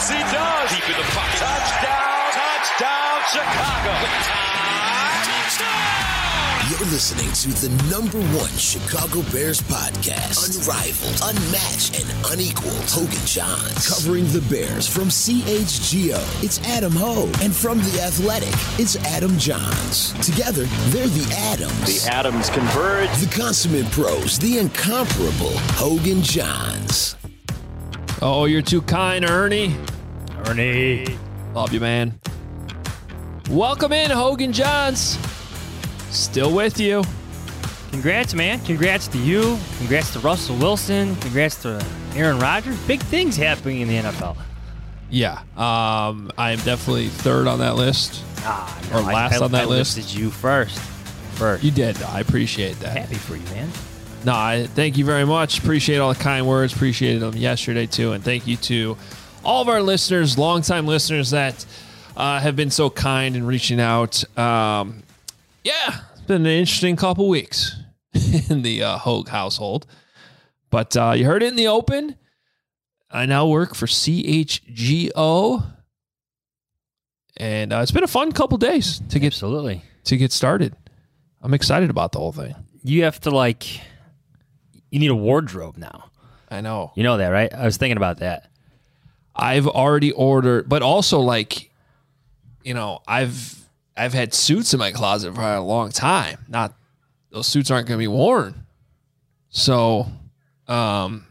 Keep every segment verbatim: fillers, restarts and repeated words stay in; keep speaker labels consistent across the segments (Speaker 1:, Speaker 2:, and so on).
Speaker 1: Yes, he does.
Speaker 2: Deep in the pocket.
Speaker 1: Touchdown, touchdown, Chicago.
Speaker 2: Touchdown.
Speaker 3: You're listening to the number one Chicago Bears podcast. Unrivaled, unmatched, and unequaled. Hogan Johns. Covering the Bears from C H G O, it's Adam Hogue. And from The Athletic, it's Adam Johns. Together, they're the Adams.
Speaker 1: The Adams converge.
Speaker 3: The consummate pros, the incomparable Hogan Johns.
Speaker 4: Oh, you're too kind, Ernie.
Speaker 5: Ernie.
Speaker 4: Love you, man. Welcome in, Hogan Johns. Still with you.
Speaker 5: Congrats, man. Congrats to you. Congrats to Russell Wilson. Congrats to Aaron Rodgers. Big things happening in the N F L.
Speaker 4: Yeah, um, I am definitely third on that list.
Speaker 5: Ah, no,
Speaker 4: or last
Speaker 5: I, I,
Speaker 4: on that
Speaker 5: I
Speaker 4: list.
Speaker 5: listed you first. First.
Speaker 4: You did. I appreciate that.
Speaker 5: Happy for you, man.
Speaker 4: No, I thank you very much. Appreciate all the kind words. Appreciated them yesterday, too. And thank you to all of our listeners, longtime listeners that uh, have been so kind in reaching out. Um, yeah, it's been an interesting couple weeks in the uh, Hogue household. But uh, you heard it in the open. I now work for C H G O. And uh, it's been a fun couple days to get,
Speaker 5: Absolutely.
Speaker 4: to get started. I'm excited about the whole thing.
Speaker 5: You have to, like, you need a wardrobe now.
Speaker 4: I know.
Speaker 5: You know that, right? I was thinking about that.
Speaker 4: I've already ordered, but also, like, you know, I've I've had suits in my closet for a long time. Not those suits aren't going to be worn. So, um,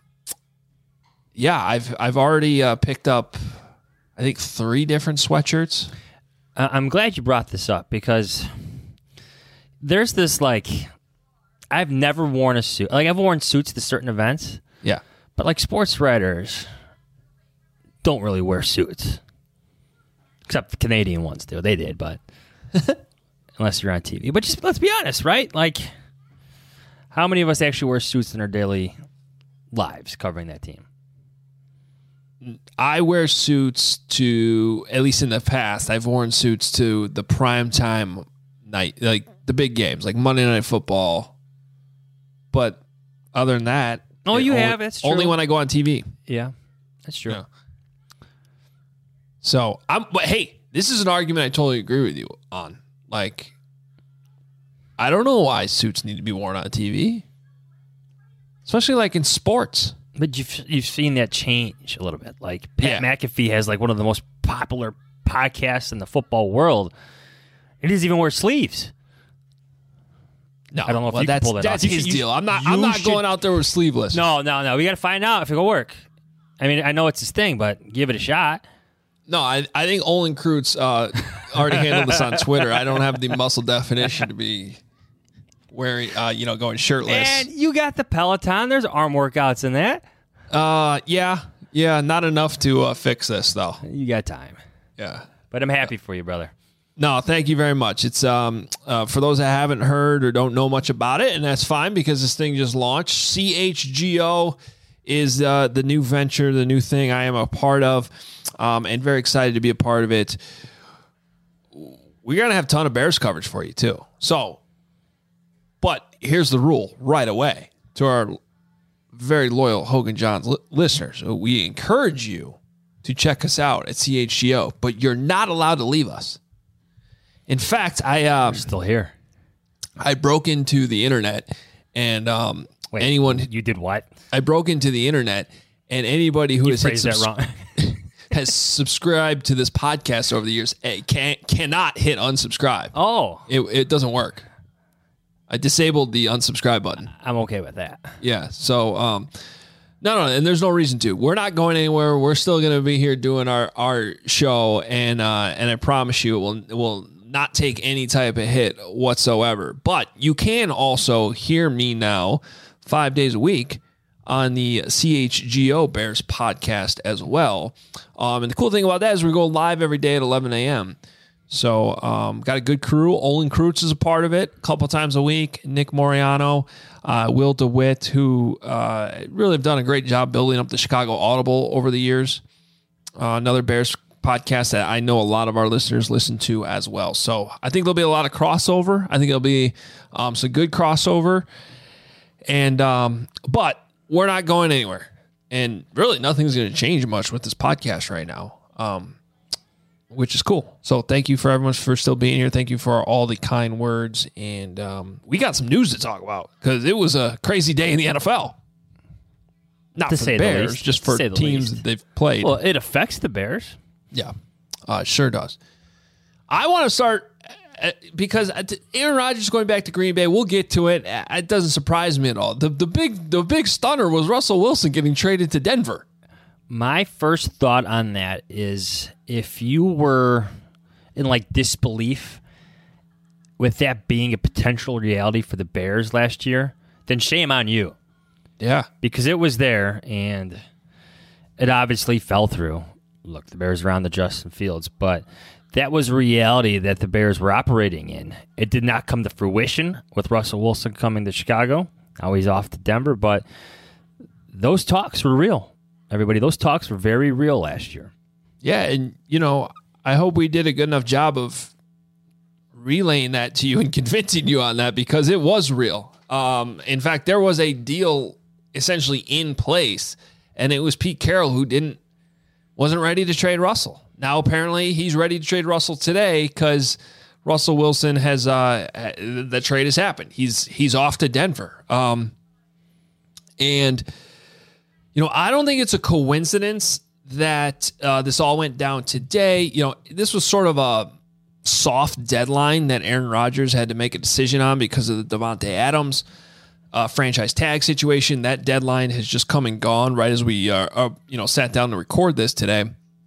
Speaker 4: yeah, I've I've already uh, picked up, I think, three different sweatshirts.
Speaker 5: Uh, I'm glad you brought this up because there's this, like, I've never worn a suit. Like, I've worn suits to certain events.
Speaker 4: Yeah,
Speaker 5: But, like, sports writers don't really wear suits. Except the Canadian ones do. They did, but unless you're on T V. But just let's be honest, right? Like, how many of us actually wear suits in our daily lives covering that team?
Speaker 4: I wear suits to, at least in the past, I've worn suits to the primetime night, like the big games, like Monday Night Football. But other than that,
Speaker 5: Oh, you
Speaker 4: only,
Speaker 5: have. That's true.
Speaker 4: only when I go on T V.
Speaker 5: Yeah, that's true.
Speaker 4: Yeah. So I'm, but hey, this is an argument I totally agree with you on. Like, I don't know why suits need to be worn on T V, especially like in sports.
Speaker 5: But you've you've seen that change a little bit. Like Pat
Speaker 4: Yeah.
Speaker 5: McAfee has like one of the most popular podcasts in the football world. He doesn't even wear sleeves.
Speaker 4: No,
Speaker 5: I don't know if
Speaker 4: well,
Speaker 5: you can
Speaker 4: that's,
Speaker 5: pull that
Speaker 4: that's
Speaker 5: off. You
Speaker 4: his
Speaker 5: should- you-
Speaker 4: deal. I'm not.
Speaker 5: you
Speaker 4: I'm not
Speaker 5: should-
Speaker 4: going out there with sleeveless.
Speaker 5: No, no, no. We got to find out if it'll work. I mean, I know it's his thing, but give it a shot.
Speaker 4: No, I, I think Olin Kreutz uh, already handled this on Twitter. I don't have the muscle definition to be wearing, uh, you know, going shirtless.
Speaker 5: And you got the Peloton. There's arm workouts in that.
Speaker 4: Uh, yeah, yeah, not enough to uh, fix this though.
Speaker 5: You got time.
Speaker 4: Yeah.
Speaker 5: But I'm happy for you, brother.
Speaker 4: No, thank you very much. It's um uh, for those that haven't heard or don't know much about it, and that's fine because this thing just launched. C H G O is uh, the new venture, the new thing I am a part of, um, and very excited to be a part of it. We're gonna have a ton of Bears coverage for you too. So, but here's the rule right away to our very loyal Hogan Johns li- listeners. We encourage you to check us out at C H G O, but you're not allowed to leave us. In fact, I um,
Speaker 5: Still here.
Speaker 4: I broke into the internet, and um,
Speaker 5: Wait,
Speaker 4: anyone
Speaker 5: You did what?
Speaker 4: I broke into the internet, and anybody who
Speaker 5: You
Speaker 4: has hit
Speaker 5: phrased that
Speaker 4: subs-
Speaker 5: wrong.
Speaker 4: has subscribed to this podcast over the years eh, can cannot hit unsubscribe.
Speaker 5: Oh,
Speaker 4: It it doesn't work. I disabled the unsubscribe button.
Speaker 5: I'm okay with that.
Speaker 4: Yeah. So um, no, no, and there's no reason to. We're not going anywhere. We're still going to be here doing our our show, and uh, and I promise you, it will it will not take any type of hit whatsoever. But you can also hear me now five days a week on the C H G O Bears podcast as well. Um, and the cool thing about that is we go live every day at eleven a.m. So um, got a good crew. Olin Kreutz is a part of it a couple times a week. Nick Moriano, uh, Will DeWitt, who uh, really have done a great job building up the Chicago Audible over the years. Uh, another Bears podcast that I know a lot of our listeners listen to as well. So I think there'll be a lot of crossover. I think there'll be um, some good crossover. And um, but we're not going anywhere. And really nothing's going to change much with this podcast right now. um, which is cool. So thank you for everyone for still being here. Thank you for all the kind words. And um, we got some news to talk about because it was a crazy day in the N F L. Not
Speaker 5: to
Speaker 4: for
Speaker 5: say
Speaker 4: the
Speaker 5: the
Speaker 4: Bears,
Speaker 5: least.
Speaker 4: just for
Speaker 5: To say the
Speaker 4: teams
Speaker 5: least.
Speaker 4: that they've played.
Speaker 5: Well, it affects the Bears.
Speaker 4: Yeah, uh, it sure does. I want to start uh, because Aaron Rodgers going back to Green Bay. We'll get to it. Uh, It doesn't surprise me at all. The the big the big stunner was Russell Wilson getting traded to Denver.
Speaker 5: My first thought on that is if you were in like disbelief with that being a potential reality for the Bears last year, then shame on you.
Speaker 4: Yeah.
Speaker 5: Because it was there and it obviously fell through. Look, the Bears are on the Justin Fields, but that was a reality that the Bears were operating in. It did not come to fruition with Russell Wilson coming to Chicago. Now he's off to Denver, but those talks were real. Everybody, those talks were very real last year.
Speaker 4: Yeah, and, you know, I hope we did a good enough job of relaying that to you and convincing you on that because it was real. Um, in fact, there was a deal essentially in place, and it was Pete Carroll who didn't wasn't ready to trade Russell. Now, apparently, he's ready to trade Russell today because Russell Wilson has uh, the trade has happened. He's he's off to Denver. Um, and... You know, I don't think it's a coincidence that uh, this all went down today. You know, this was sort of a soft deadline that Aaron Rodgers had to make a decision on because of the Devontae Adams uh, franchise tag situation. That deadline has just come and gone right as we, uh, uh, you know, sat down to record this today.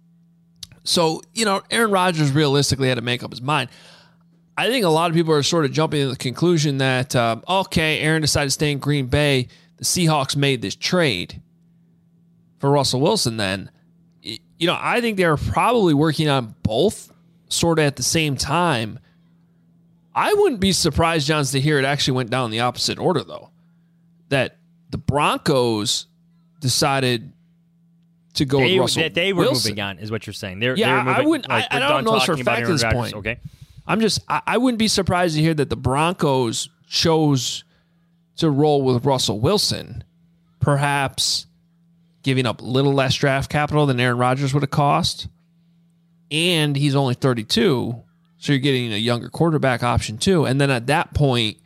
Speaker 4: So, you know, Aaron Rodgers realistically had to make up his mind. I think a lot of people are sort of jumping to the conclusion that, uh, okay, Aaron decided to stay in Green Bay. The Seahawks made this trade for Russell Wilson. Then, you know, I think they're probably working on both sort of at the same time. I wouldn't be surprised, Johns, to hear it actually went down in the opposite order, though. That the Broncos decided to go
Speaker 5: they,
Speaker 4: with Russell
Speaker 5: that they were
Speaker 4: Wilson.
Speaker 5: moving on, is what you're saying. They're,
Speaker 4: Yeah,
Speaker 5: they were moving,
Speaker 4: I wouldn't.
Speaker 5: Like,
Speaker 4: I, I
Speaker 5: we're
Speaker 4: don't
Speaker 5: done
Speaker 4: know for a
Speaker 5: talking about
Speaker 4: fact at
Speaker 5: Aaron
Speaker 4: this
Speaker 5: Rodgers.
Speaker 4: point.
Speaker 5: Okay,
Speaker 4: I'm just. I, I wouldn't be surprised to hear that the Broncos chose to roll with Russell Wilson, perhaps giving up a little less draft capital than Aaron Rodgers would have cost, and he's only thirty-two, so you're getting a younger quarterback option too. And then at that point,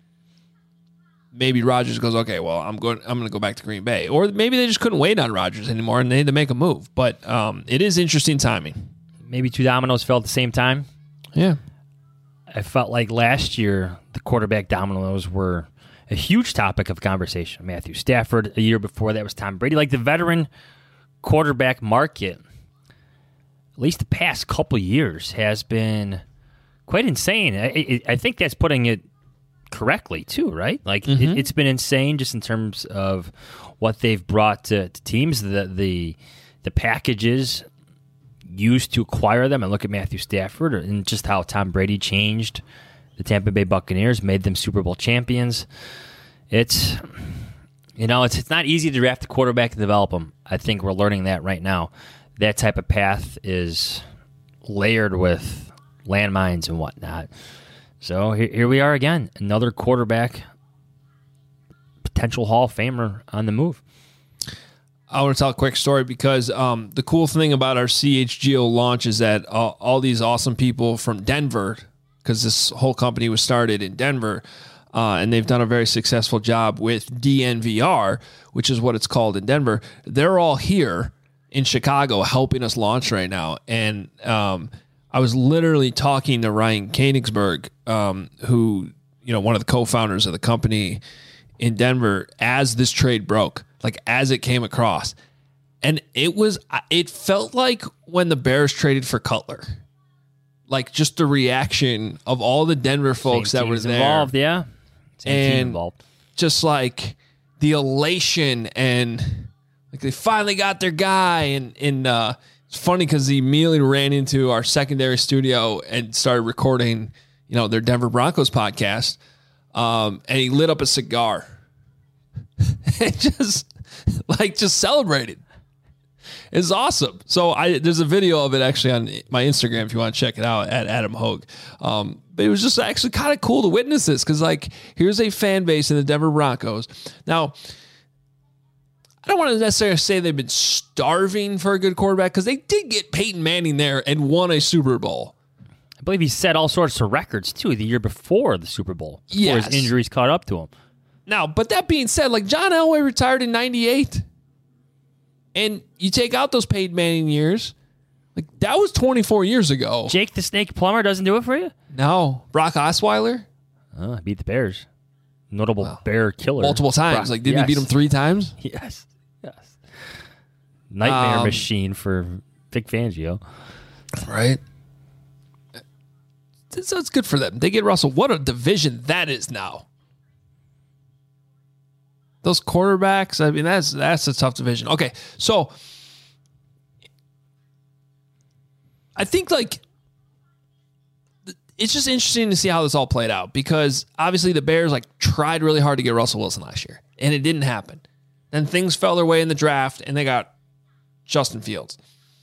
Speaker 4: maybe Rodgers goes, okay, well, I'm going. I'm going to go back to Green Bay, or maybe they just couldn't wait on Rodgers anymore and they had to make a move. But um, it is interesting timing.
Speaker 5: maybe two dominoes fell at the same time.
Speaker 4: Yeah.
Speaker 5: I felt like last year the quarterback dominoes were a huge topic of conversation. Matthew Stafford, a year before that was Tom Brady. Like the veteran quarterback market, at least the past couple years, has been quite insane. I, I think that's putting it correctly too, right? Like mm-hmm. it, it's been insane just in terms of what they've brought to, to teams, the the the packages used to acquire them. And look at Matthew Stafford and just how Tom Brady changed the Tampa Bay Buccaneers, made them Super Bowl champions. It's, you know, it's it's not easy to draft a quarterback and develop them. I think we're learning that right now. That type of path is layered with landmines and whatnot. So here, here we are again, another quarterback, potential Hall of Famer on the move.
Speaker 4: I want to tell a quick story because um, the cool thing about our C H G O launch is that all, all these awesome people from Denver, because this whole company was started in Denver, uh, and they've done a very successful job with D N V R, which is what it's called in Denver. They're all here in Chicago helping us launch right now. And um, I was literally talking to Ryan Koenigsberg, um, who, you know, one of the co-founders of the company in Denver, as this trade broke, like as it came across. And it was, it felt like when the Bears traded for Cutler, like just the reaction of all the Denver folks
Speaker 5: Same
Speaker 4: that were
Speaker 5: teams
Speaker 4: there.
Speaker 5: Involved, yeah. Same
Speaker 4: and
Speaker 5: team involved.
Speaker 4: Just like the elation and like they finally got their guy. And, and uh, it's funny because he immediately ran into our secondary studio and started recording, you know, their Denver Broncos podcast. Um, and he lit up a cigar and just like just celebrated. It's awesome. So I there's a video of it actually on my Instagram if you want to check it out at Adam Hogue. Um, but it was just actually kind of cool to witness this because like here's a fan base in the Denver Broncos. Now, I don't want to necessarily say they've been starving for a good quarterback because they did get Peyton Manning there and won a Super Bowl.
Speaker 5: I believe he set all sorts of records, too, the year before the Super Bowl. Before
Speaker 4: Yes.
Speaker 5: his injuries caught up to him.
Speaker 4: Now, but that being said, like John Elway retired in ninety-eight. And you take out those Peyton Manning years, like that was twenty-four years ago.
Speaker 5: Jake the Snake Plumber doesn't do it for you?
Speaker 4: No. Brock Osweiler?
Speaker 5: Oh, beat the Bears. Notable wow. Bear killer.
Speaker 4: Multiple times.
Speaker 5: Brock,
Speaker 4: like, didn't
Speaker 5: yes.
Speaker 4: he beat him three times?
Speaker 5: Yes. Yes. Nightmare
Speaker 4: um,
Speaker 5: machine for Vic Fangio.
Speaker 4: Right. So it's good for them. They get Russell. What a division that is now. Those quarterbacks, I mean, that's that's a tough division. Okay, so I think like it's just interesting to see how this all played out because obviously the Bears like tried really hard to get Russell Wilson last year, and it didn't happen. Then things fell their way in the draft, and they got Justin Fields.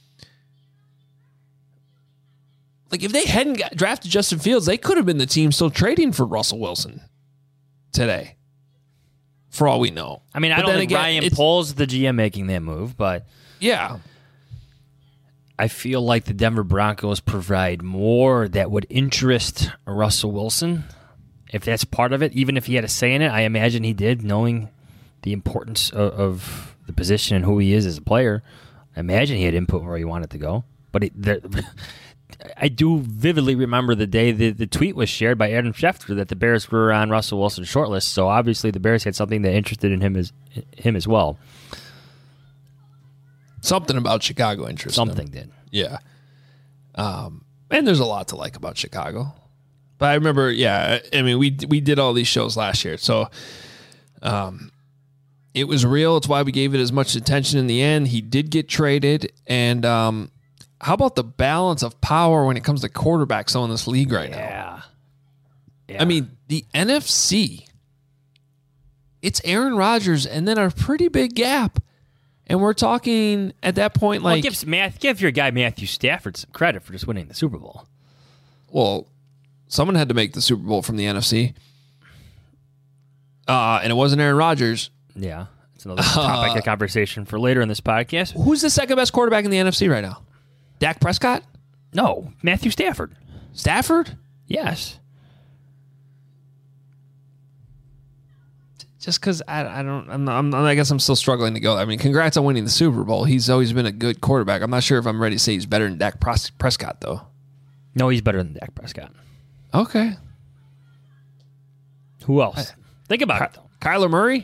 Speaker 4: Like, if they hadn't got drafted Justin Fields, they could have been the team still trading for Russell Wilson today, for all we know.
Speaker 5: I mean, I
Speaker 4: but
Speaker 5: don't
Speaker 4: then
Speaker 5: think
Speaker 4: again,
Speaker 5: Ryan Poles, the G M, making that move, but
Speaker 4: yeah,
Speaker 5: I feel like the Denver Broncos provide more that would interest Russell Wilson, if that's part of it. Even if he had a say in it, I imagine he did, knowing the importance of, of the position and who he is as a player. I imagine he had input where he wanted to go, but it, the, I do vividly remember the day the, the tweet was shared by Adam Schefter that the Bears were on Russell Wilson's shortlist. So obviously the Bears had something that interested in him as him as well.
Speaker 4: Something about Chicago interested
Speaker 5: Something
Speaker 4: him.
Speaker 5: did.
Speaker 4: Yeah. Um, and there's a lot to like about Chicago. But I remember, yeah, I mean, we we did all these shows last year. So um, it was real. It's why we gave it as much attention in the end. He did get traded. And um, how about the balance of power when it comes to quarterbacks in this league right
Speaker 5: yeah.
Speaker 4: now?
Speaker 5: Yeah.
Speaker 4: I mean, the N F C, it's Aaron Rodgers and then a pretty big gap. And we're talking at that point like...
Speaker 5: Well, give, Math, give your guy Matthew Stafford some credit for just winning the Super Bowl.
Speaker 4: Well, someone had to make the Super Bowl from the N F C. Uh, and it wasn't Aaron Rodgers.
Speaker 5: Yeah. It's another topic of conversation for later in this podcast.
Speaker 4: Who's the second best quarterback in the N F C right now? Dak Prescott?
Speaker 5: No, Matthew Stafford.
Speaker 4: Stafford?
Speaker 5: Yes.
Speaker 4: Just because I, I don't, I'm, I'm, I guess I'm still struggling to go. I mean, congrats on winning the Super Bowl. He's always been a good quarterback. I'm not sure if I'm ready to say he's better than Dak Pres- Prescott, though.
Speaker 5: No, he's better than Dak Prescott.
Speaker 4: Okay.
Speaker 5: Who else? I, Think about
Speaker 4: Ky-
Speaker 5: it, though.
Speaker 4: Kyler Murray?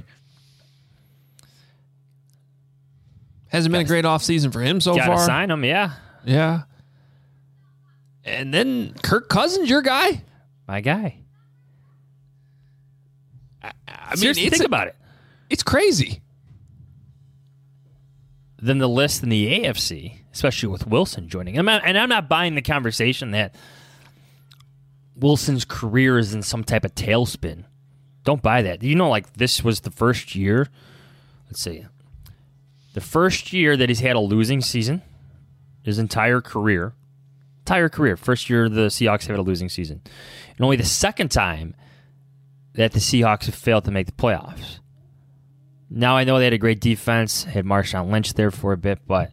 Speaker 4: Hasn't been
Speaker 5: Gotta,
Speaker 4: a great offseason for him so
Speaker 5: gotta
Speaker 4: far.
Speaker 5: sign him, yeah.
Speaker 4: Yeah. And then Kirk Cousins, your guy?
Speaker 5: My guy.
Speaker 4: I, I mean,
Speaker 5: Seriously, think
Speaker 4: a,
Speaker 5: about it.
Speaker 4: It's crazy.
Speaker 5: Then the list in the A F C, especially with Wilson joining. I'm not, and I'm not buying the conversation that Wilson's career is in some type of tailspin. Don't buy that. You know, like this was the first year. Let's see. The first year that he's had a losing season, his entire career. Entire career. First year the Seahawks have had a losing season. And only the second time that the Seahawks have failed to make the playoffs. Now I know they had a great defense, had Marshawn Lynch there for a bit, but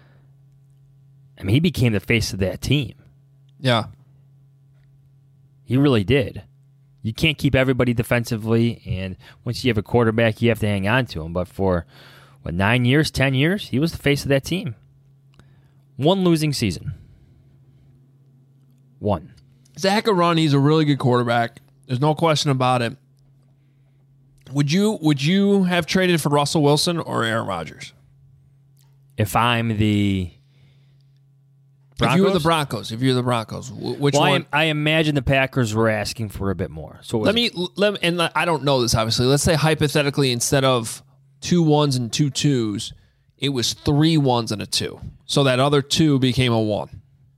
Speaker 5: I mean, he became the face of that team.
Speaker 4: Yeah.
Speaker 5: He really did. You can't keep everybody defensively, and once you have a quarterback, you have to hang on to him. But for, what, nine years, ten years, he was the face of that team. One losing season. One.
Speaker 4: Zach Arun, he's a really good quarterback. There's no question about it. Would you would you have traded for Russell Wilson or Aaron Rodgers?
Speaker 5: If I'm the Broncos?
Speaker 4: If you were the Broncos, if you're the Broncos, which
Speaker 5: well,
Speaker 4: one?
Speaker 5: I, I imagine the Packers were asking for a bit more. So
Speaker 4: let me let me, and I don't know this obviously. Let's say hypothetically, instead of two ones and two twos, it was three ones and a two. So that other two became a one.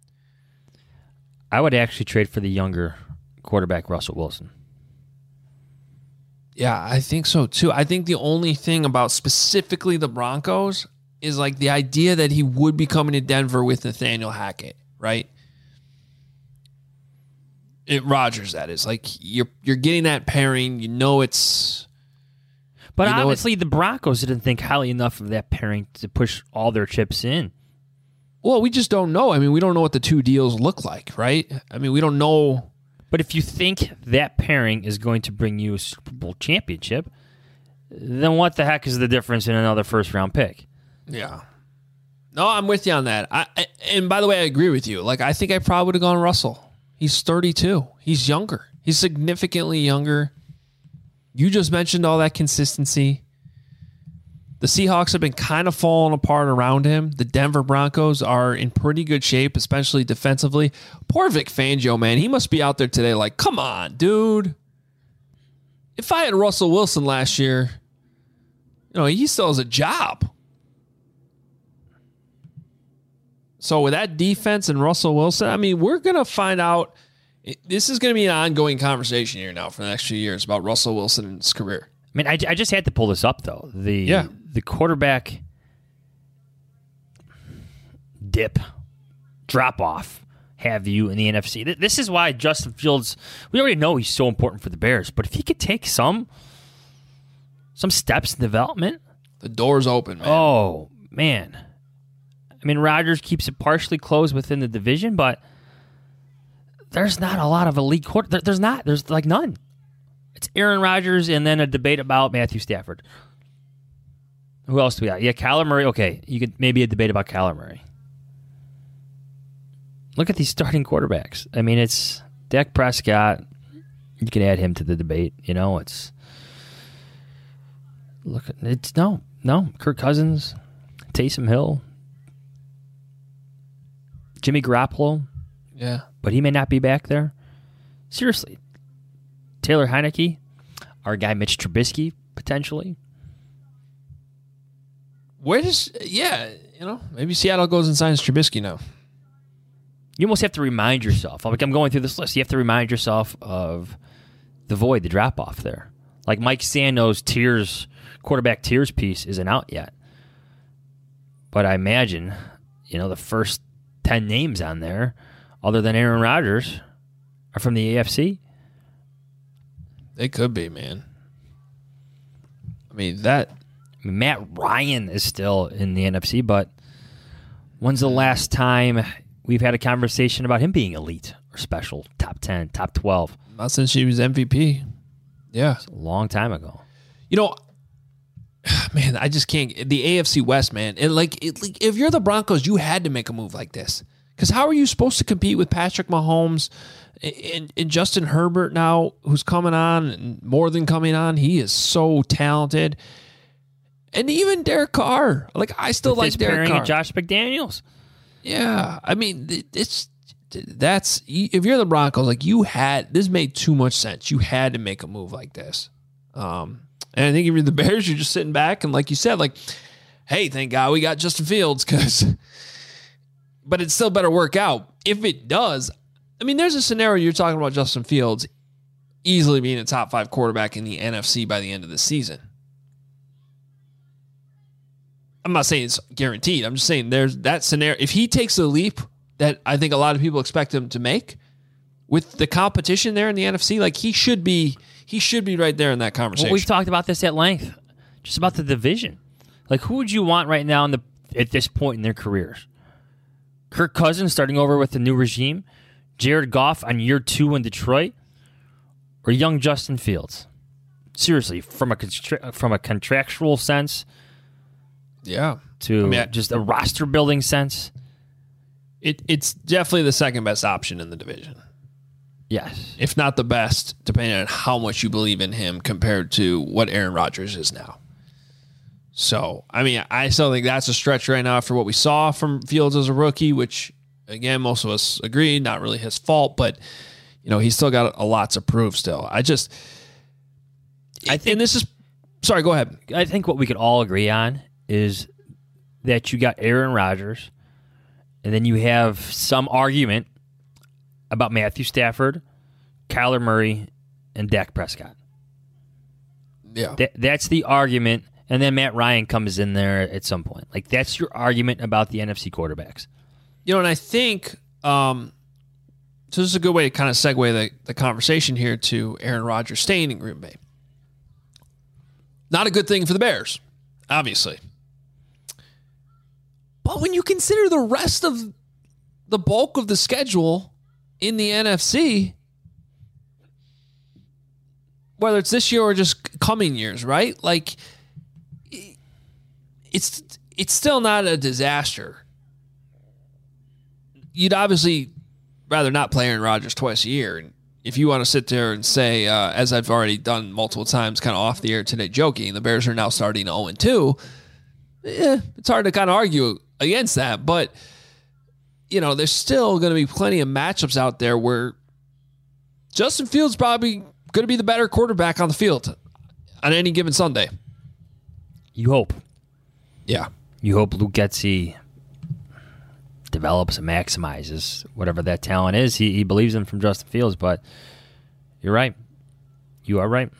Speaker 5: I would actually trade for the younger quarterback, Russell Wilson.
Speaker 4: Yeah, I think so too. I think the only thing about specifically the Broncos is like the idea that he would be coming to Denver with Nathaniel Hackett, right? It Rodgers, that is. Like you're you're getting that pairing. You know it's
Speaker 5: But
Speaker 4: you know
Speaker 5: obviously,
Speaker 4: what?
Speaker 5: the Broncos didn't think highly enough of that pairing to push all their chips in.
Speaker 4: Well, we just don't know. I mean, we don't know what the two deals look like, right? I mean, we don't know.
Speaker 5: But if you think that pairing is going to bring you a Super Bowl championship, then what the heck is the difference in another first-round pick?
Speaker 4: Yeah. No, I'm with you on that. I, I and by the way, I agree with you. Like, I think I probably would have gone Russell. He's thirty-two. He's younger. He's significantly younger. You just mentioned all that consistency. The Seahawks have been kind of falling apart around him. The Denver Broncos are in pretty good shape, especially defensively. Poor Vic Fangio, man. He must be out there today like, come on, dude. If I had Russell Wilson last year, you know, he still has a job. So with that defense and Russell Wilson, I mean, we're going to find out. This is going to be an ongoing conversation here now for the next few years about Russell Wilson and his career.
Speaker 5: I mean, I, I just had to pull this up, though. The
Speaker 4: Yeah.
Speaker 5: the quarterback dip, drop-off, have you in the N F C. This is why Justin Fields, we already know he's so important for the Bears, but if he could take some some steps in development.
Speaker 4: The door's open, man.
Speaker 5: Oh, man. I mean, Rodgers keeps it partially closed within the division, but there's not a lot of elite quarter. There, there's not. There's like none. It's Aaron Rodgers and then a debate about Matthew Stafford. Who else do we got? Yeah, Kyler Murray. Okay, you could maybe a debate about Kyler Murray. Look at these starting quarterbacks. I mean, it's Dak Prescott. You can add him to the debate. You know, it's look. At, it's no, no. Kirk Cousins, Taysom Hill, Jimmy Garoppolo.
Speaker 4: Yeah.
Speaker 5: But he may not be back there. Seriously. Taylor Heineke, our guy Mitch Trubisky, potentially.
Speaker 4: Where does, yeah, you know, maybe Seattle goes and signs Trubisky now.
Speaker 5: You almost have to remind yourself. Like I'm going through this list. You have to remind yourself of the void, the drop-off there. Like Mike Sando's tiers, quarterback tiers piece isn't out yet. But I imagine, you know, the first ten names on there, other than Aaron Rodgers, are from the A F C.
Speaker 4: They could be, man. I mean, that.
Speaker 5: I mean, Matt Ryan is still in the N F C, but when's the last time we've had a conversation about him being elite or special, top ten, top twelve?
Speaker 4: Not since he was M V P. Yeah.
Speaker 5: It's a long time ago.
Speaker 4: You know, man, I just can't. The A F C West, man. And like, it, like, if you're the Broncos, you had to make a move like this. Because how are you supposed to compete with Patrick Mahomes and, and Justin Herbert now, who's coming on and more than coming on? He is so talented. And even Derek Carr. Like, I still
Speaker 5: With
Speaker 4: like
Speaker 5: his
Speaker 4: Derek
Speaker 5: pairing
Speaker 4: Carr.
Speaker 5: and Josh McDaniels.
Speaker 4: Yeah. I mean, it's that's if you're the Broncos, like you had this made too much sense. You had to make a move like this. Um, and I think if you're the Bears, you're just sitting back and like you said, like, hey, thank God we got Justin Fields because. But it still better work out. If it does, I mean, there's a scenario you're talking about Justin Fields easily being a top five quarterback in the N F C by the end of the season. I'm not saying it's guaranteed. I'm just saying there's that scenario. If he takes the leap that I think a lot of people expect him to make with the competition there in the N F C, like he should be, he should be right there in that conversation.
Speaker 5: Well, we've talked about this at length, just about the division. Like, who would you want right now in the at this point in their careers? Kirk Cousins starting over with the new regime, Jared Goff on year two in Detroit, or young Justin Fields? Seriously, from a constra- from a contractual sense,
Speaker 4: yeah,
Speaker 5: to
Speaker 4: I mean, I,
Speaker 5: just a roster building sense,
Speaker 4: it it's definitely the second best option in the division.
Speaker 5: Yes,
Speaker 4: if not the best, depending on how much you believe in him compared to what Aaron Rodgers is now. So, I mean, I still think that's a stretch right now after what we saw from Fields as a rookie, which, again, most of us agree, not really his fault, but, you know, he's still got a lot to prove still. I just, I think, and this is, sorry, go ahead.
Speaker 5: I think what we could all agree on is that you got Aaron Rodgers, and then you have some argument about Matthew Stafford, Kyler Murray, and Dak Prescott.
Speaker 4: Yeah.
Speaker 5: That, that's the argument. And then Matt Ryan comes in there at some point. Like, that's your argument about the N F C quarterbacks.
Speaker 4: You know, and I think, um, so this is a good way to kind of segue the, the conversation here to Aaron Rodgers staying in Green Bay. Not a good thing for the Bears, obviously. But when you consider the rest of the bulk of the schedule in the N F C, whether it's this year or just coming years, right? Like, it's it's still not a disaster. You'd obviously rather not play Aaron Rodgers twice a year. And if you want to sit there and say, uh, as I've already done multiple times, kind of off the air today, joking, the Bears are now starting oh and two, eh, it's hard to kind of argue against that. But, you know, there's still going to be plenty of matchups out there where Justin Fields probably going to be the better quarterback on the field on any given Sunday.
Speaker 5: You hope.
Speaker 4: Yeah.
Speaker 5: You hope Luke Getsy develops and maximizes whatever that talent is. He, he believes in from Justin Fields, but you're right. You are right.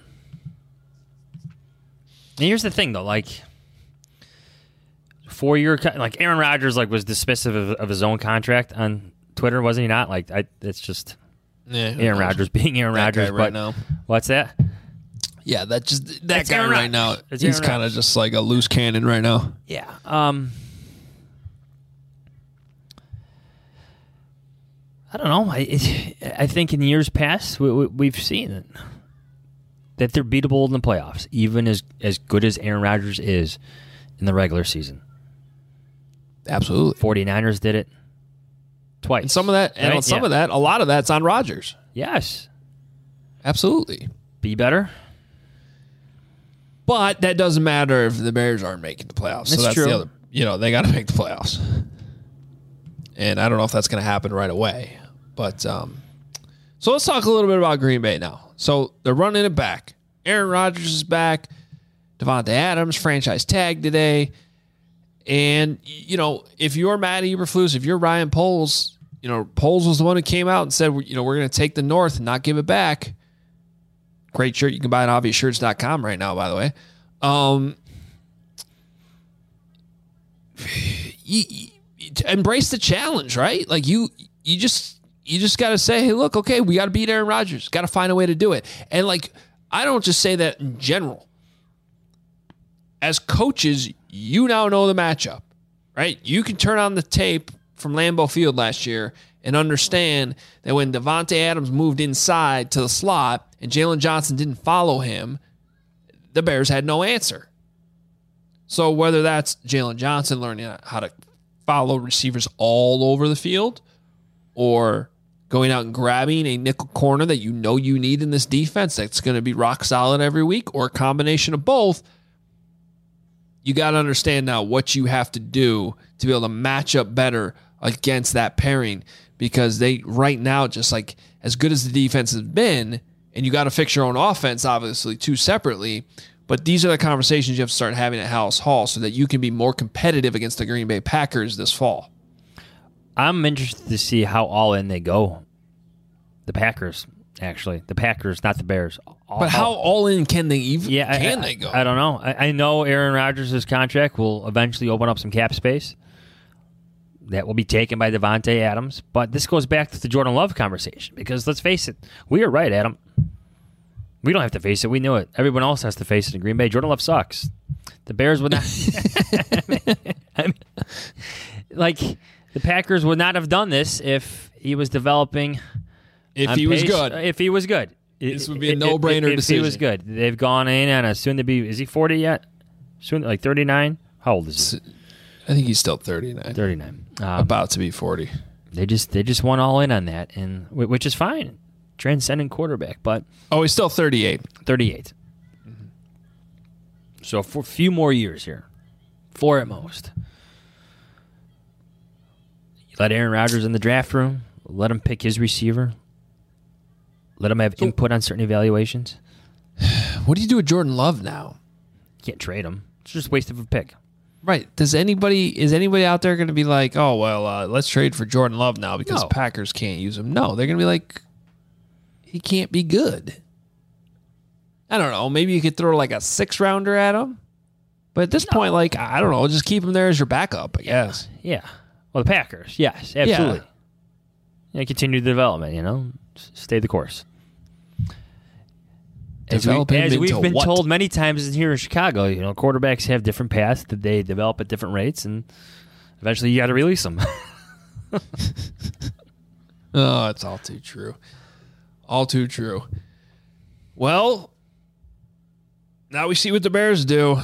Speaker 5: And here's the thing, though. Like, four-year, like Aaron Rodgers, like was dismissive of, of his own contract on Twitter, wasn't he not? Like, I, it's just
Speaker 4: yeah,
Speaker 5: Aaron Rodgers being Aaron Rodgers.
Speaker 4: Right
Speaker 5: but
Speaker 4: now.
Speaker 5: What's that?
Speaker 4: Yeah, that just that
Speaker 5: That's
Speaker 4: guy
Speaker 5: Aaron
Speaker 4: right now.
Speaker 5: It's
Speaker 4: He's
Speaker 5: Aaron
Speaker 4: kind of just like a loose cannon right now.
Speaker 5: Yeah. Um. I don't know. I it, I think in years past we, we, we've seen that they're beatable in the playoffs, even as as good as Aaron Rodgers is in the regular season.
Speaker 4: Absolutely.
Speaker 5: 49ers did it twice.
Speaker 4: And some of that, and
Speaker 5: right?
Speaker 4: some
Speaker 5: yeah.
Speaker 4: of that, a lot of that's on Rodgers.
Speaker 5: Yes.
Speaker 4: Absolutely.
Speaker 5: Be better.
Speaker 4: But that doesn't matter if the Bears aren't making the playoffs.
Speaker 5: That's
Speaker 4: so that's
Speaker 5: true.
Speaker 4: the other, you know, they got to make the playoffs. And I don't know if that's going to happen right away. But um, so let's talk a little bit about Green Bay now. So they're running it back. Aaron Rodgers is back. Devontae Adams franchise tag today. And, you know, if you're Matt Eberflus, if you're Ryan Poles, you know, Poles was the one who came out and said, you know, we're going to take the North and not give it back. Great shirt. You can buy it at obvious shirts dot com right now, by the way. Um, you, you, embrace the challenge, right? Like you, you just, you just got to say, hey, look, okay, we got to beat Aaron Rodgers. Got to find a way to do it. And like, I don't just say that in general. As coaches, you now know the matchup, right? You can turn on the tape from Lambeau Field last year and understand that when Devontae Adams moved inside to the slot and Jalen Johnson didn't follow him, the Bears had no answer. So whether that's Jalen Johnson learning how to follow receivers all over the field or going out and grabbing a nickel corner that you know you need in this defense that's going to be rock solid every week, or a combination of both, you got to understand now what you have to do to be able to match up better against that pairing, because they right now, just like as good as the defense has been, and you got to fix your own offense, obviously, too, separately. But these are the conversations you have to start having at Hallis Hall so that you can be more competitive against the Green Bay Packers this fall.
Speaker 5: I'm interested to see how all in they go. The Packers, actually. The Packers, not the Bears. All,
Speaker 4: but how all in can they even
Speaker 5: yeah,
Speaker 4: can
Speaker 5: I,
Speaker 4: they go?
Speaker 5: I, I don't know. I, I know Aaron Rodgers' contract will eventually open up some cap space. That will be taken by Devontae Adams. But this goes back to the Jordan Love conversation, because let's face it, we are right, Adam. We don't have to face it. We knew it. Everyone else has to face it in Green Bay. Jordan Love sucks. The Bears would not. I mean, I mean, like, the Packers would not have done this if he was developing.
Speaker 4: If he was
Speaker 5: pace,
Speaker 4: good.
Speaker 5: If he was good.
Speaker 4: This would be a no-brainer
Speaker 5: if,
Speaker 4: decision.
Speaker 5: If he was good. They've gone in on a soon-to-be, is he forty yet? Soon, like thirty-nine? How old is he?
Speaker 4: I think he's still thirty-nine.
Speaker 5: thirty-nine. Um,
Speaker 4: About to be forty.
Speaker 5: They just they just went all in on that, and which is fine. Transcendent quarterback, but
Speaker 4: Oh, he's still thirty-eight.
Speaker 5: thirty-eight. Mm-hmm. So for a few more years here, four at most. You let Aaron Rodgers in the draft room, let him pick his receiver, let him have
Speaker 4: so,
Speaker 5: input on certain evaluations.
Speaker 4: What do you do with Jordan Love now?
Speaker 5: You can't trade him. It's just a waste of a pick.
Speaker 4: Right. Does anybody is anybody out there going to be like, oh well, uh, let's trade for Jordan Love now because
Speaker 5: No.
Speaker 4: Packers can't use him? No, they're going to be like, he can't be good. I don't know. Maybe you could throw like a six rounder at him, but at this no. point, like I don't know, just keep him there as your backup, I guess.
Speaker 5: Yeah. Well, the Packers, yes, absolutely. Yeah. Yeah, continue the development. You know, stay the course. As, we,
Speaker 4: Develop him
Speaker 5: as we've
Speaker 4: into
Speaker 5: been
Speaker 4: what?
Speaker 5: told many times here in Chicago, you know, quarterbacks have different paths that they develop at different rates, and eventually you got to release them.
Speaker 4: Oh, it's all too true. All too true. Well, now we see what the Bears do.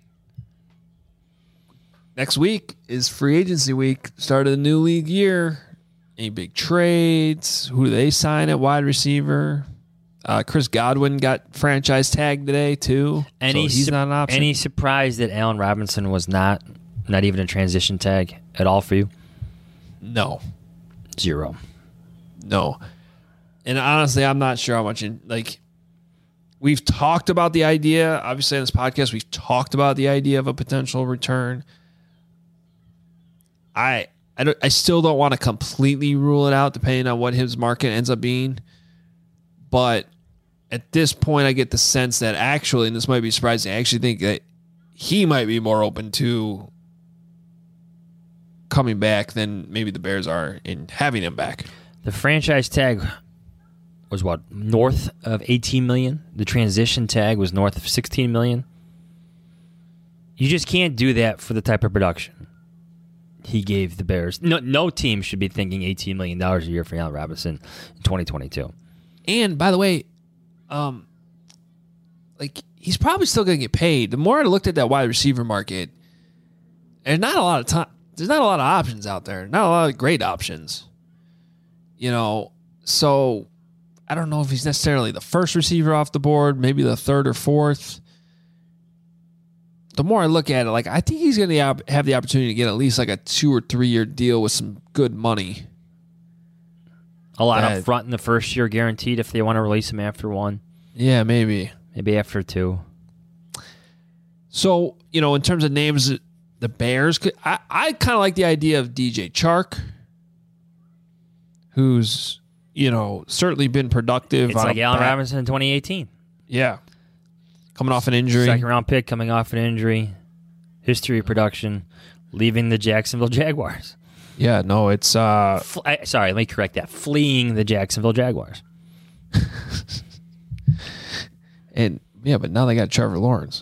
Speaker 4: Next week is free agency week, start of the new league year. Any big trades? Who do they sign at wide receiver? Uh, Chris Godwin got franchise tagged today too.
Speaker 5: Any
Speaker 4: so he's
Speaker 5: su-
Speaker 4: not an option.
Speaker 5: Any surprise that Allen Robinson was not, not even a transition tag at all for you?
Speaker 4: No,
Speaker 5: Zero.
Speaker 4: no. And honestly, I'm not sure how much. In, like, we've talked about the idea. Obviously, on this podcast, we've talked about the idea of a potential return. I I, don't, I still don't want to completely rule it out, depending on what his market ends up being. But at this point, I get the sense that actually, and this might be surprising, I actually think that he might be more open to coming back than maybe the Bears are in having him back.
Speaker 5: The franchise tag was what, north of eighteen million dollars? The transition tag was north of sixteen million dollars. You just can't do that for the type of production he gave the Bears. No, no team should be thinking eighteen million dollars a year for Allen Robinson in twenty twenty-two.
Speaker 4: And by the way, um, like he's probably still going to get paid. The more I looked at that wide receiver market, there's not a lot of time. There's not a lot of options out there. Not a lot of great options. You know, so I don't know if he's necessarily the first receiver off the board, maybe the third or fourth. The more I look at it, like I think he's going to have the opportunity to get at least like a two or three year deal with some good money.
Speaker 5: A lot
Speaker 4: That-
Speaker 5: up front in the first year guaranteed if they want to release him after one.
Speaker 4: Yeah, maybe.
Speaker 5: Maybe after two.
Speaker 4: So, you know, in terms of names, the Bears, could, I, I kind of like the idea of D J Chark, who's, you know, certainly been productive.
Speaker 5: It's
Speaker 4: on
Speaker 5: like
Speaker 4: a
Speaker 5: Allen
Speaker 4: back-
Speaker 5: Robinson in twenty eighteen.
Speaker 4: Yeah. Coming off an injury.
Speaker 5: Second round pick coming off an injury. History of production. Leaving the Jacksonville Jaguars.
Speaker 4: Yeah, no, it's... uh
Speaker 5: Fl- I, sorry, let me correct that. Fleeing the Jacksonville Jaguars.
Speaker 4: and yeah, but now they got Trevor Lawrence.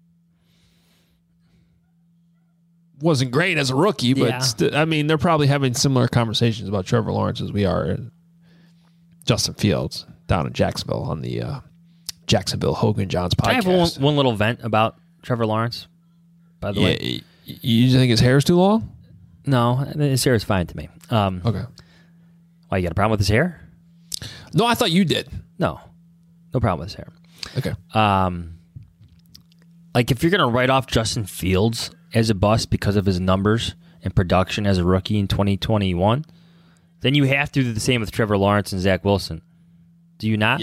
Speaker 4: Wasn't great as a rookie, but
Speaker 5: Yeah.
Speaker 4: st- I mean, they're probably having similar conversations about Trevor Lawrence as we are in Justin Fields down in Jacksonville on the uh, Jacksonville Hogan Johns podcast.
Speaker 5: I have one, one little vent about Trevor Lawrence, by the
Speaker 4: yeah,
Speaker 5: way.
Speaker 4: y- you think his hair is too long?
Speaker 5: No, his hair is fine to me. Um,
Speaker 4: Okay.
Speaker 5: Why, you got a problem with his hair?
Speaker 4: No, I thought you did.
Speaker 5: No. No problem with his hair.
Speaker 4: Okay.
Speaker 5: Um, like, if you're going to write off Justin Fields as a bust because of his numbers and production as a rookie in twenty twenty-one, then you have to do the same with Trevor Lawrence and Zach Wilson. Do you not?
Speaker 4: Yeah.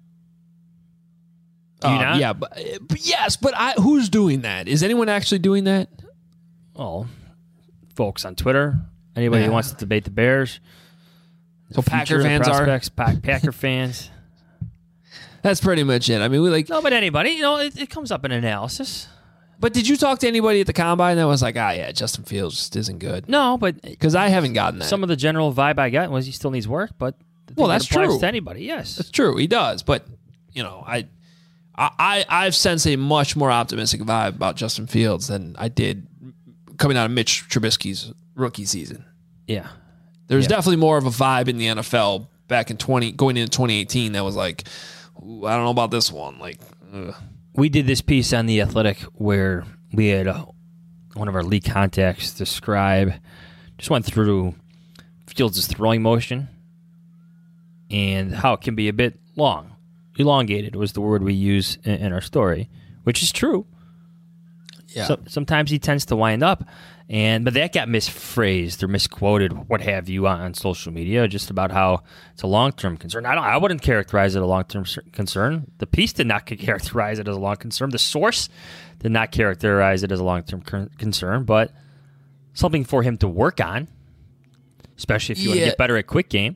Speaker 5: Do you
Speaker 4: Uh,
Speaker 5: not?
Speaker 4: Yeah, but, but yes, but I, who's doing that? Is anyone actually doing that?
Speaker 5: Well, folks on Twitter, anybody
Speaker 4: Yeah.
Speaker 5: who wants to debate the Bears.
Speaker 4: So
Speaker 5: the
Speaker 4: Packer
Speaker 5: future, the
Speaker 4: fans are?
Speaker 5: prospects, Pa- Packer fans.
Speaker 4: That's pretty much it. I mean, we like.
Speaker 5: No, but anybody, you know, it, it comes up in analysis.
Speaker 4: But did you talk to anybody at the combine that was like, ah, yeah, Justin Fields just isn't good?
Speaker 5: No, but
Speaker 4: Because I haven't gotten that.
Speaker 5: some of the general vibe I got was he still needs work, but I think
Speaker 4: Well,
Speaker 5: that
Speaker 4: that's
Speaker 5: applies
Speaker 4: true.
Speaker 5: to anybody, yes.
Speaker 4: That's true. He does. But, you know, I, I, I've sensed a much more optimistic vibe about Justin Fields than I did coming out of Mitch Trubisky's rookie season.
Speaker 5: Yeah.
Speaker 4: There's
Speaker 5: Yeah.
Speaker 4: definitely more of a vibe in the N F L back in twenty going into twenty eighteen that was like, ooh, I don't know about this one. Like, ugh.
Speaker 5: We did this piece on The Athletic where we had uh, one of our league contacts describe, just went through Fields' throwing motion and how it can be a bit long. Elongated was the word we use in, in our story, which is true.
Speaker 4: yeah.
Speaker 5: So, sometimes he tends to wind up, and but that got misphrased or misquoted, what have you, on, on social media, just about how it's a long-term concern. I don't. I wouldn't characterize it a long-term cer- concern. The piece did not characterize it as a long concern. The source did not characterize it as a long-term cur- concern, but something for him to work on, especially if you want
Speaker 4: Yeah.
Speaker 5: to get better at quick game.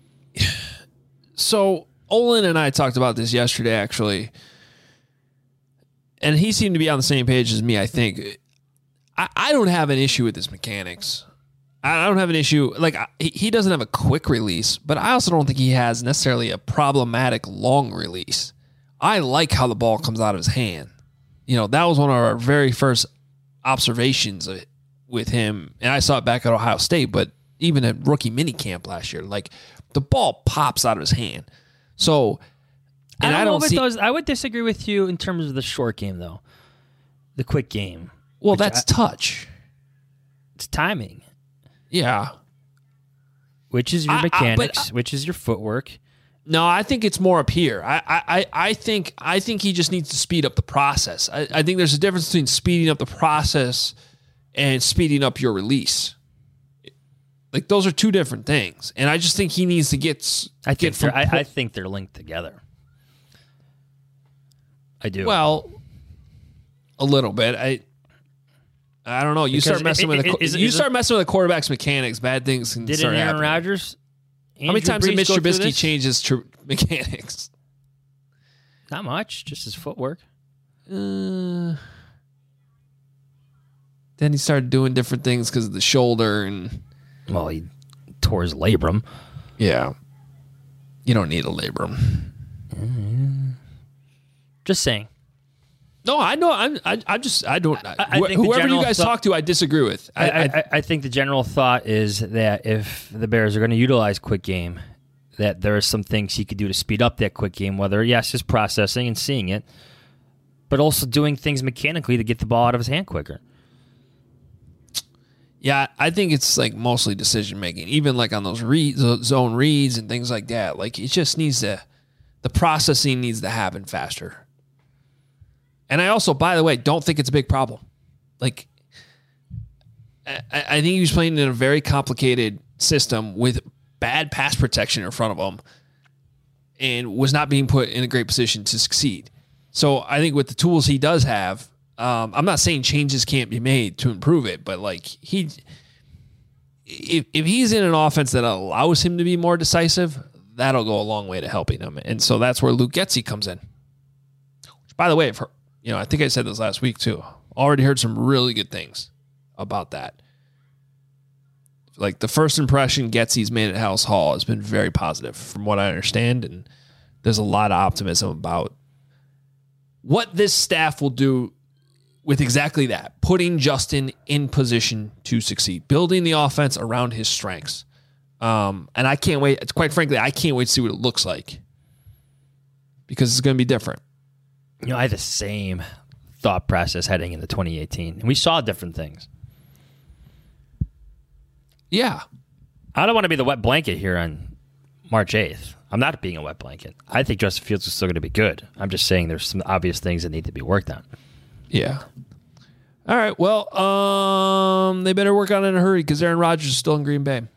Speaker 4: So Olin and I talked about this yesterday, actually, and he seemed to be on the same page as me. I think I, I don't have an issue with his mechanics. I don't have an issue. Like I, he he doesn't have a quick release, but I also don't think he has necessarily a problematic long release. I like how the ball comes out of his hand. You know, that was one of our very first observations with him. And I saw it back at Ohio State, but even at rookie mini camp last year, like the ball pops out of his hand. So, and
Speaker 5: I don't,
Speaker 4: I don't
Speaker 5: know if
Speaker 4: see.
Speaker 5: it does, I would disagree with you in terms of the short game, though. The quick game.
Speaker 4: Well, that's
Speaker 5: I,
Speaker 4: touch.
Speaker 5: It's timing.
Speaker 4: Yeah.
Speaker 5: Which is your
Speaker 4: I,
Speaker 5: mechanics,
Speaker 4: I, but,
Speaker 5: which is your footwork.
Speaker 4: No, I think it's more up here. I, I, I think I think he just needs to speed up the process. I, I think there's a difference between speeding up the process and speeding up your release. Like those are two different things, and I just think he needs to get.
Speaker 5: I think
Speaker 4: get from,
Speaker 5: I, I think they're linked together. I do.
Speaker 4: Well, a little bit. I. I don't know. You
Speaker 5: Because
Speaker 4: start messing
Speaker 5: it,
Speaker 4: with
Speaker 5: it,
Speaker 4: a,
Speaker 5: is,
Speaker 4: you
Speaker 5: is
Speaker 4: start
Speaker 5: it,
Speaker 4: messing with a quarterback's mechanics. Bad things can
Speaker 5: did
Speaker 4: start
Speaker 5: Aaron
Speaker 4: happening.
Speaker 5: Rodgers?
Speaker 4: How many times did Mitch
Speaker 5: Brees go through
Speaker 4: Trubisky
Speaker 5: this?
Speaker 4: change his tr- mechanics?
Speaker 5: Not much, just his footwork.
Speaker 4: Uh, then he started doing different things because of the shoulder and.
Speaker 5: Well, he tore his labrum.
Speaker 4: Yeah. You don't need a labrum.
Speaker 5: Mm-hmm. Just saying.
Speaker 4: No, I know. I'm. I, I'm just. I don't.
Speaker 5: I, I
Speaker 4: wh-
Speaker 5: think the
Speaker 4: whoever you
Speaker 5: general
Speaker 4: guys
Speaker 5: thought-
Speaker 4: talk to, I disagree with. I,
Speaker 5: I,
Speaker 4: I,
Speaker 5: I, I think the general thought is that if the Bears are going to utilize quick game, that there are some things he could do to speed up that quick game, whether, yes, just processing and seeing it, but also doing things mechanically to get the ball out of his hand quicker.
Speaker 4: yeah, I think it's like mostly decision making, even like on those read, zone reads and things like that. Like it just needs to, the processing needs to happen faster. And I also, by the way, don't think it's a big problem. Like, I, I think he was playing in a very complicated system with bad pass protection in front of him and was not being put in a great position to succeed. So I think with the tools he does have, um, I'm not saying changes can't be made to improve it, but like he, if, if he's in an offense that allows him to be more decisive, that'll go a long way to helping him. And so that's where Luke Getsy comes in. Which, by the way, I've heard, you know, I think I said this last week too. Already heard some really good things about that. Like the first impression Getsy's made at House Hall has been very positive from what I understand. And there's a lot of optimism about what this staff will do with exactly that, putting Justin in position to succeed, building the offense around his strengths. Um, and I can't wait. It's quite frankly, I can't wait to see what it looks like because it's going to be different.
Speaker 5: You know, I had the same thought process heading into twenty eighteen, and we saw different things.
Speaker 4: Yeah.
Speaker 5: I don't want to be the wet blanket here on March eighth. I'm not being a wet blanket. I think Justin Fields is still going to be good. I'm just saying there's some obvious things that need to be worked on.
Speaker 4: Yeah. All right. Well, um, they better work on it in a hurry because Aaron Rodgers is still in Green Bay.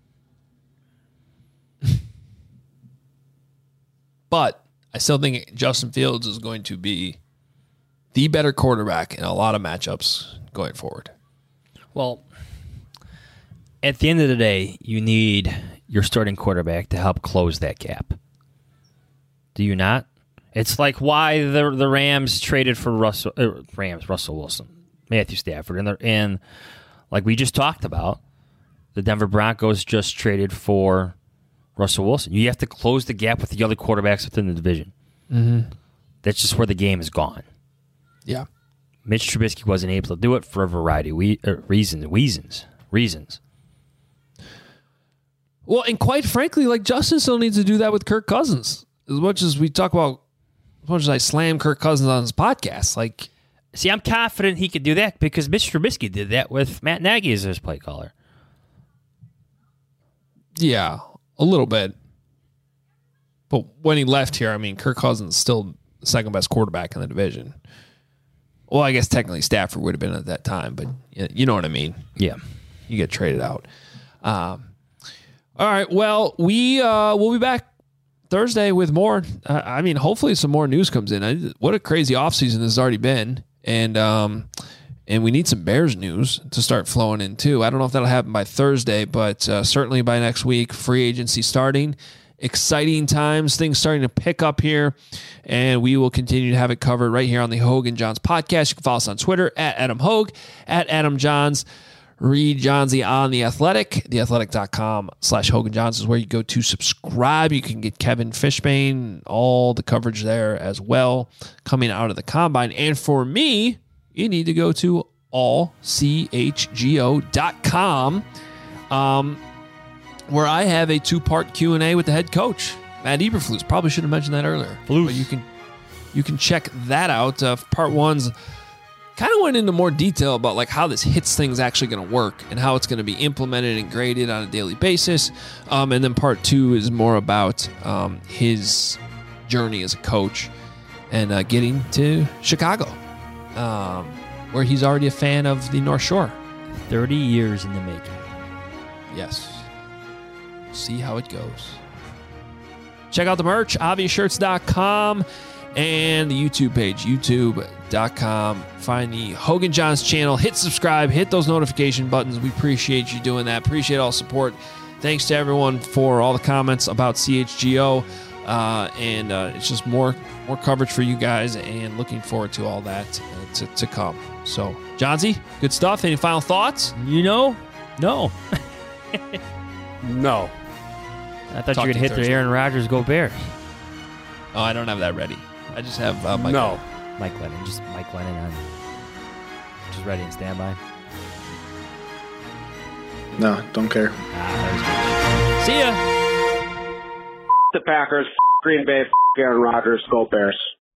Speaker 4: But I still think Justin Fields is going to be the better quarterback in a lot of matchups going forward.
Speaker 5: Well, at the end of the day, you need your starting quarterback to help close that gap. Do you not? It's like why the the Rams traded for Russell uh, Rams Russell Wilson, Matthew Stafford, and and like we just talked about, the Denver Broncos just traded for Russell Wilson. You have to close the gap with the other quarterbacks within the division.
Speaker 4: Mm-hmm.
Speaker 5: That's just where the game is gone.
Speaker 4: Yeah.
Speaker 5: Mitch Trubisky wasn't able to do it for a variety of we, uh, reasons. Reasons. Reasons.
Speaker 4: Well, and quite frankly, like Justin still needs to do that with Kirk Cousins. As much as we talk about, as much as I slam Kirk Cousins on his podcast, like,
Speaker 5: see, I'm confident he could do that because Mitch Trubisky did that with Matt Nagy as his play caller.
Speaker 4: yeah, a little bit. But when he left here, I mean, Kirk Cousins is still the second best quarterback in the division. Well, I guess technically Stafford would have been at that time, but you know what I mean.
Speaker 5: Yeah.
Speaker 4: You get traded out. Um, all right. Well, we uh, we'll be back Thursday with more. Uh, I mean, hopefully some more news comes in. I, what a crazy offseason this has already been, and um, and we need some Bears news to start flowing in too. I don't know if that'll happen by Thursday, but uh, certainly by next week. Free agency starting. Exciting times, things starting to pick up here, and we will continue to have it covered right here on the Hogue and Johns podcast. You can follow us on Twitter at Adam Hogue, at Adam Johns. read Johnsy on The Athletic. theathletic.com slash Hogan Johns is where you go to subscribe. You can get Kevin Fishbane, all the coverage there as well, coming out of the combine. And for me, you need to go to all c h g o dot com, um, where I have a two-part Q and A with the head coach, Matt Eberflus. Probably should have mentioned that earlier.
Speaker 5: Flus.
Speaker 4: But you can you can check that out. Uh, part one's kind of went into more detail about like how this hits thing's actually going to work and how it's going to be implemented and graded on a daily basis. Um, and then part two is more about um, his journey as a coach and uh, getting to Chicago, um, where he's already a fan of the North Shore.
Speaker 5: thirty years in the making.
Speaker 4: Yes. See how it goes. Check out the merch, obvious shirts dot com, and the YouTube page, youtube dot com. Find the Hogan Johns channel. Hit subscribe. Hit those notification buttons. We appreciate you doing that. Appreciate all support. Thanks to everyone for all the comments about C H G O. Uh, and uh, it's just more more coverage for you guys, and looking forward to all that uh, to, to come. So, Johnsy, good stuff. Any final thoughts?
Speaker 5: You know? No.
Speaker 2: No.
Speaker 5: I thought
Speaker 4: Talk
Speaker 5: you were going
Speaker 4: to
Speaker 5: to
Speaker 4: you
Speaker 5: hit the
Speaker 4: Thursday.
Speaker 5: Aaron Rodgers go Bears.
Speaker 4: Oh, I don't have that ready. I just have uh, Mike.
Speaker 2: No.
Speaker 5: Mike Lennon. Just Mike Lennon on. Just ready and standby.
Speaker 6: No, don't care.
Speaker 5: Ah, that was good. See ya.
Speaker 7: The Packers, Green Bay, Aaron Rodgers, go Bears.